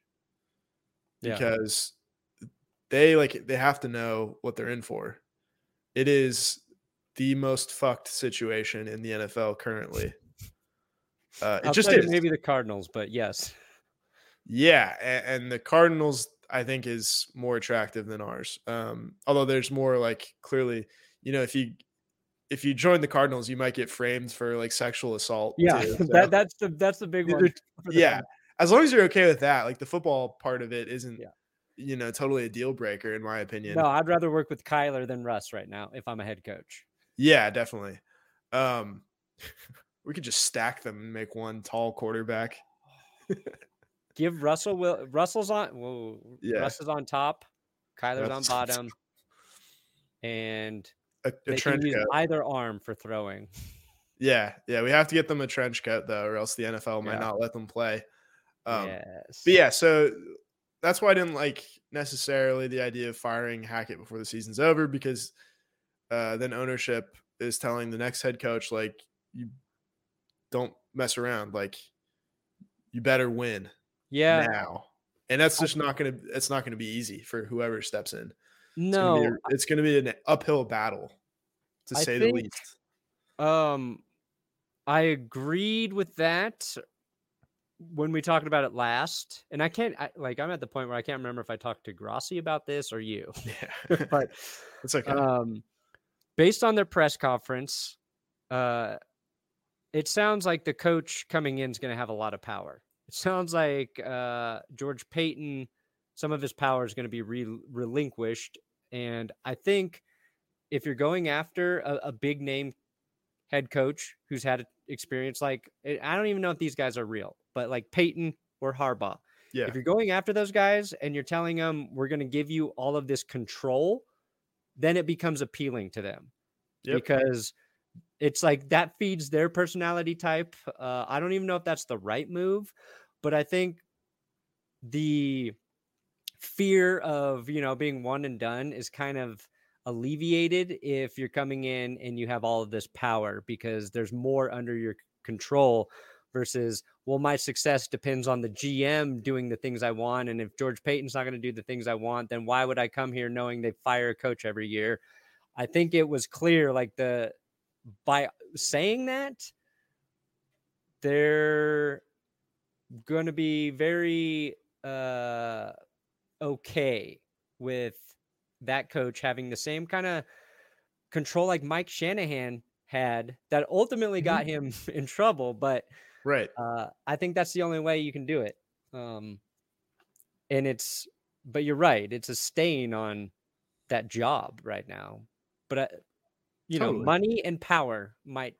because yeah. they like, they have to know what they're in for. It is the most fucked situation in the N F L currently. Uh, it just is. Maybe the Cardinals, but yes. Yeah. And, and the Cardinals, I think, is more attractive than ours. Um, although there's more like clearly, you know, if you, if you join the Cardinals, you might get framed for like sexual assault. Yeah. Too, so. that, that's the, that's the big one. Yeah. Cardinals. As long as you're okay with that, like the football part of it isn't, yeah. you know, totally a deal breaker in my opinion. No, I'd rather work with Kyler than Russ right now if I'm a head coach. Yeah, definitely. Um, we could just stack them and make one tall quarterback. Give Russell will Russell's on whoa, yeah. Russ is on top, Kyler's That's, on bottom, and a, a they trench can use coat. either arm for throwing. Yeah, yeah, we have to get them a trench coat though, or else the N F L might yeah. not let them play. Um, yes. But yeah, so that's why I didn't like necessarily the idea of firing Hackett before the season's over, because uh, then ownership is telling the next head coach, like, you don't mess around, like, you better win. Yeah. Now. And that's just not going to, it's not going to be easy for whoever steps in. No. It's going to be, an uphill battle, to say think, the least. Um, I agreed with that when we talked about it last. And I can't, I, like, I'm at the point where I can't remember if I talked to Grossi about this or you. Yeah. But it's okay. Um, based on their press conference, uh, it sounds like the coach coming in is going to have a lot of power. It sounds like uh, George Paton, some of his power is going to be re- relinquished. And I think if you're going after a, a big name head coach who's had experience, like, I don't even know if these guys are real, but like Paton or Harbaugh, yeah. if you're going after those guys and you're telling them we're going to give you all of this control, then it becomes appealing to them. Yep. Because it's like that feeds their personality type. Uh, I don't even know if that's the right move, but I think the fear of, you know, being one and done is kind of alleviated if you're coming in and you have all of this power, because there's more under your control versus, well, my success depends on the G M doing the things I want. And if George Paton's not going to do the things I want, then why would I come here knowing they fire a coach every year? I think it was clear, like, the, by saying that, they're going to be very uh, okay with that coach having the same kind of control like Mike Shanahan had that ultimately got him in trouble. But right, uh, I think that's the only way you can do it. Um, and it's, but you're right, it's a stain on that job right now. But uh, you totally. know, money and power might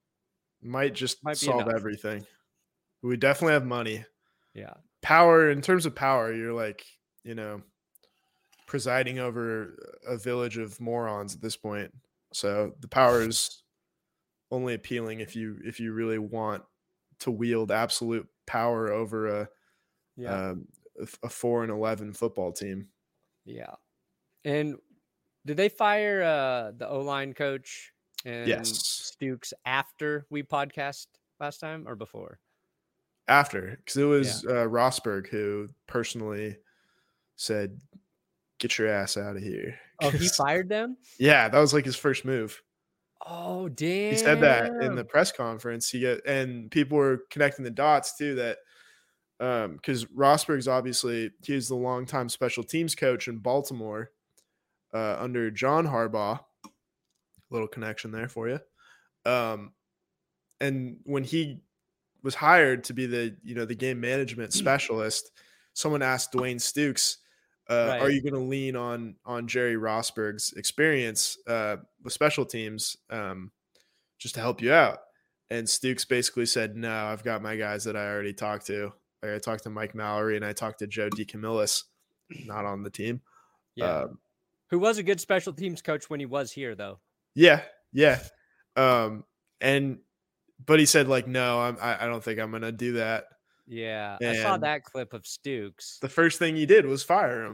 might just might solve enough. everything. We definitely have money. Yeah. Power, in terms of power, you're like, you know, presiding over a village of morons at this point. So the power is only appealing if you if you really want to wield absolute power over a yeah. um, a four and eleven football team. Yeah. And did they fire uh, the O-line coach and yes. Stooks after we podcast last time or before? After, because it was yeah. uh, Rosberg who personally said, "Get your ass out of here." Oh, he fired them? Yeah, that was like his first move. Oh, damn. He said that in the press conference. He got, and people were connecting the dots too, that um, because Rosberg's obviously, he was the longtime special teams coach in Baltimore uh, under John Harbaugh. Little connection there for you. Um, and when he was hired to be the, you know, the game management specialist, someone asked Dwayne Stooks, uh, right. are you going to lean on, on Jerry Rosberg's experience uh, with special teams um, just to help you out? And Stooks basically said, no, I've got my guys that I already talked to. Like, I talked to Mike Mallory and I talked to Joe DeCamillis, not on the team. Yeah. Um, Who was a good special teams coach when he was here, though. Yeah. Yeah. Um, and, but he said, like, no, I'm, I, I don't think I'm going to do that. Yeah. And I saw that clip of Stooks. The first thing he did was fire him.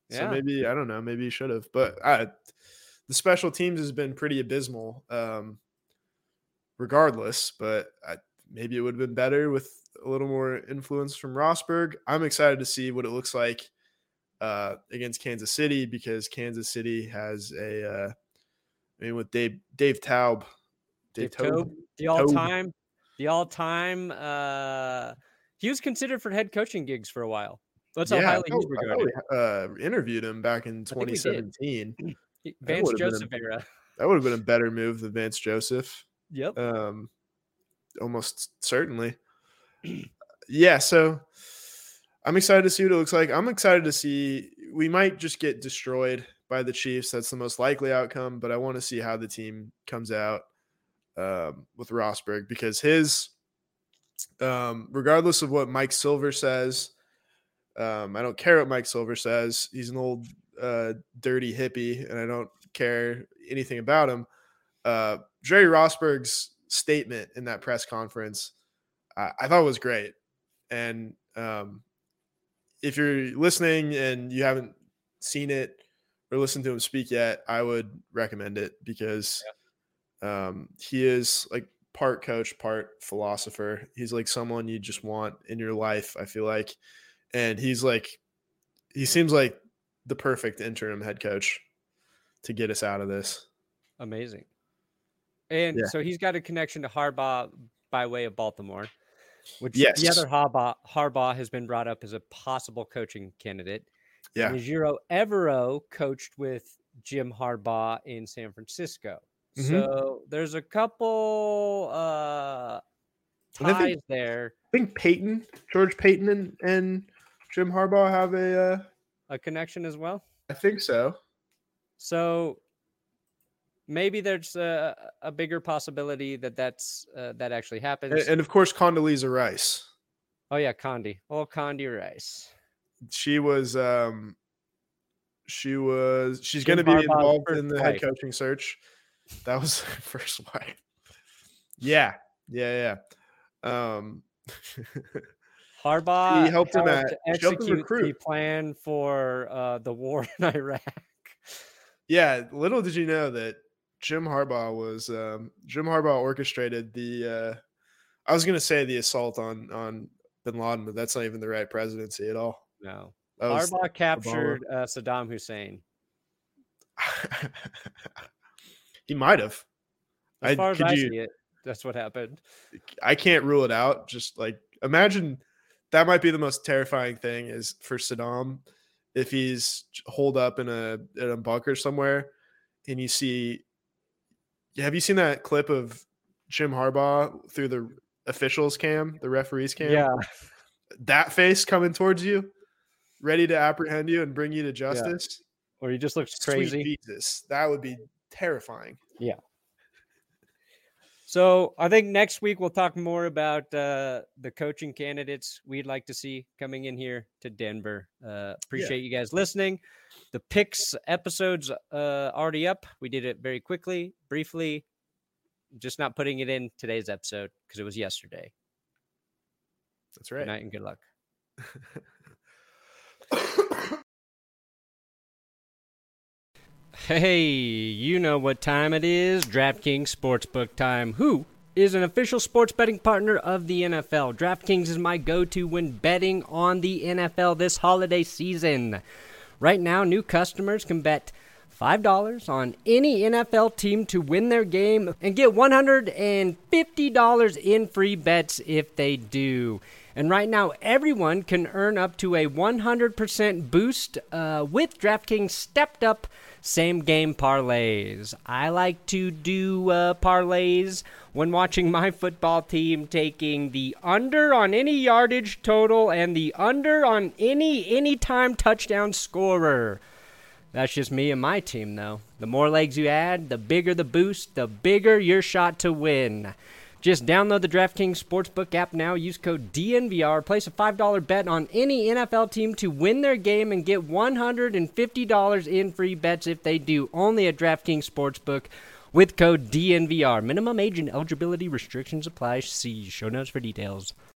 So yeah. maybe, I don't know, maybe he should have. But I, the special teams has been pretty abysmal um, regardless. But I, maybe it would have been better with a little more influence from Rosburg. I'm excited to see what it looks like uh, against Kansas City, because Kansas City has a, uh, I mean, with Dave Dave Taub, Dave, Dave Toub, the all-time, the all-time. Uh, he was considered for head coaching gigs for a while. That's how yeah, highly I he's regarded. I uh, interviewed him back in twenty seventeen. Vance Joseph a, era. That would have been a better move than Vance Joseph. Yep. Um, almost certainly. Yeah, so I'm excited to see what it looks like. I'm excited to see. We might just get destroyed by the Chiefs. That's the most likely outcome, but I want to see how the team comes out um, with Rosburg, because his, um, regardless of what Mike Silver says, um, I don't care what Mike Silver says. He's an old uh, dirty hippie, and I don't care anything about him. Uh, Jerry Rosburg's statement in that press conference, I, I thought was great. And um, if you're listening and you haven't seen it or listened to him speak yet, I would recommend it, because yeah. um, he is like part coach, part philosopher. He's like someone you just want in your life, I feel like. And he's like, he seems like the perfect interim head coach to get us out of this. Amazing. And yeah. so he's got a connection to Harbaugh by way of Baltimore, which yes. the other Harbaugh, Harbaugh has been brought up as a possible coaching candidate. Yeah. And Ejiro Evero coached with Jim Harbaugh in San Francisco. Mm-hmm. So there's a couple uh, ties I think, there. I think Peyton, George Peyton and, and Jim Harbaugh have a uh, a connection as well. I think so. So maybe there's a, a bigger possibility that that's uh, that actually happens. And, and of course, Condoleezza Rice. Oh yeah, Condi. Oh, Condi Rice. She was. Um, she was. She's going to be involved in the wife. head coaching search. That was her first wife. Yeah, yeah, yeah. Um, Harbaugh he helped him at to execute the plan for uh, the war in Iraq. Yeah, little did you know that Jim Harbaugh was um, Jim Harbaugh orchestrated the. Uh, I was going to say the assault on on Bin Laden, but that's not even the right presidency at all. No, Harbaugh captured uh, Saddam Hussein. He might have. As I, far as I you, see it, that's what happened. I can't rule it out. Just like imagine that might be the most terrifying thing is for Saddam if he's holed up in a in a bunker somewhere and you see. Have you seen that clip of Jim Harbaugh through the officials cam, the referees cam? Yeah, that face coming towards you, ready to apprehend you and bring you to justice. Yeah. Or he just looks crazy. Sweet Jesus, that would be terrifying. Yeah. So I think next week we'll talk more about uh, the coaching candidates we'd like to see coming in here to Denver. Uh, appreciate yeah. you guys listening. The picks episode's uh, already up. We did it very quickly, briefly. Just not putting it in today's episode because it was yesterday. That's right. Good night and good luck. Hey, you know what time it is. DraftKings Sportsbook time. Who is an official sports betting partner of the N F L? DraftKings is my go-to when betting on the N F L this holiday season. Right now, new customers can bet five dollars on any N F L team to win their game and get one hundred fifty dollars in free bets if they do. And right now, everyone can earn up to a one hundred percent boost uh, with DraftKings stepped-up same-game parlays. I like to do uh, parlays when watching my football team, taking the under on any yardage total and the under on any anytime touchdown scorer. That's just me and my team, though. The more legs you add, the bigger the boost, the bigger your shot to win. Just download the DraftKings Sportsbook app now. Use code D N V R. Place a five dollars bet on any N F L team to win their game and get one hundred fifty dollars in free bets if they do. Only at DraftKings Sportsbook with code D N V R. Minimum age and eligibility restrictions apply. See show notes for details.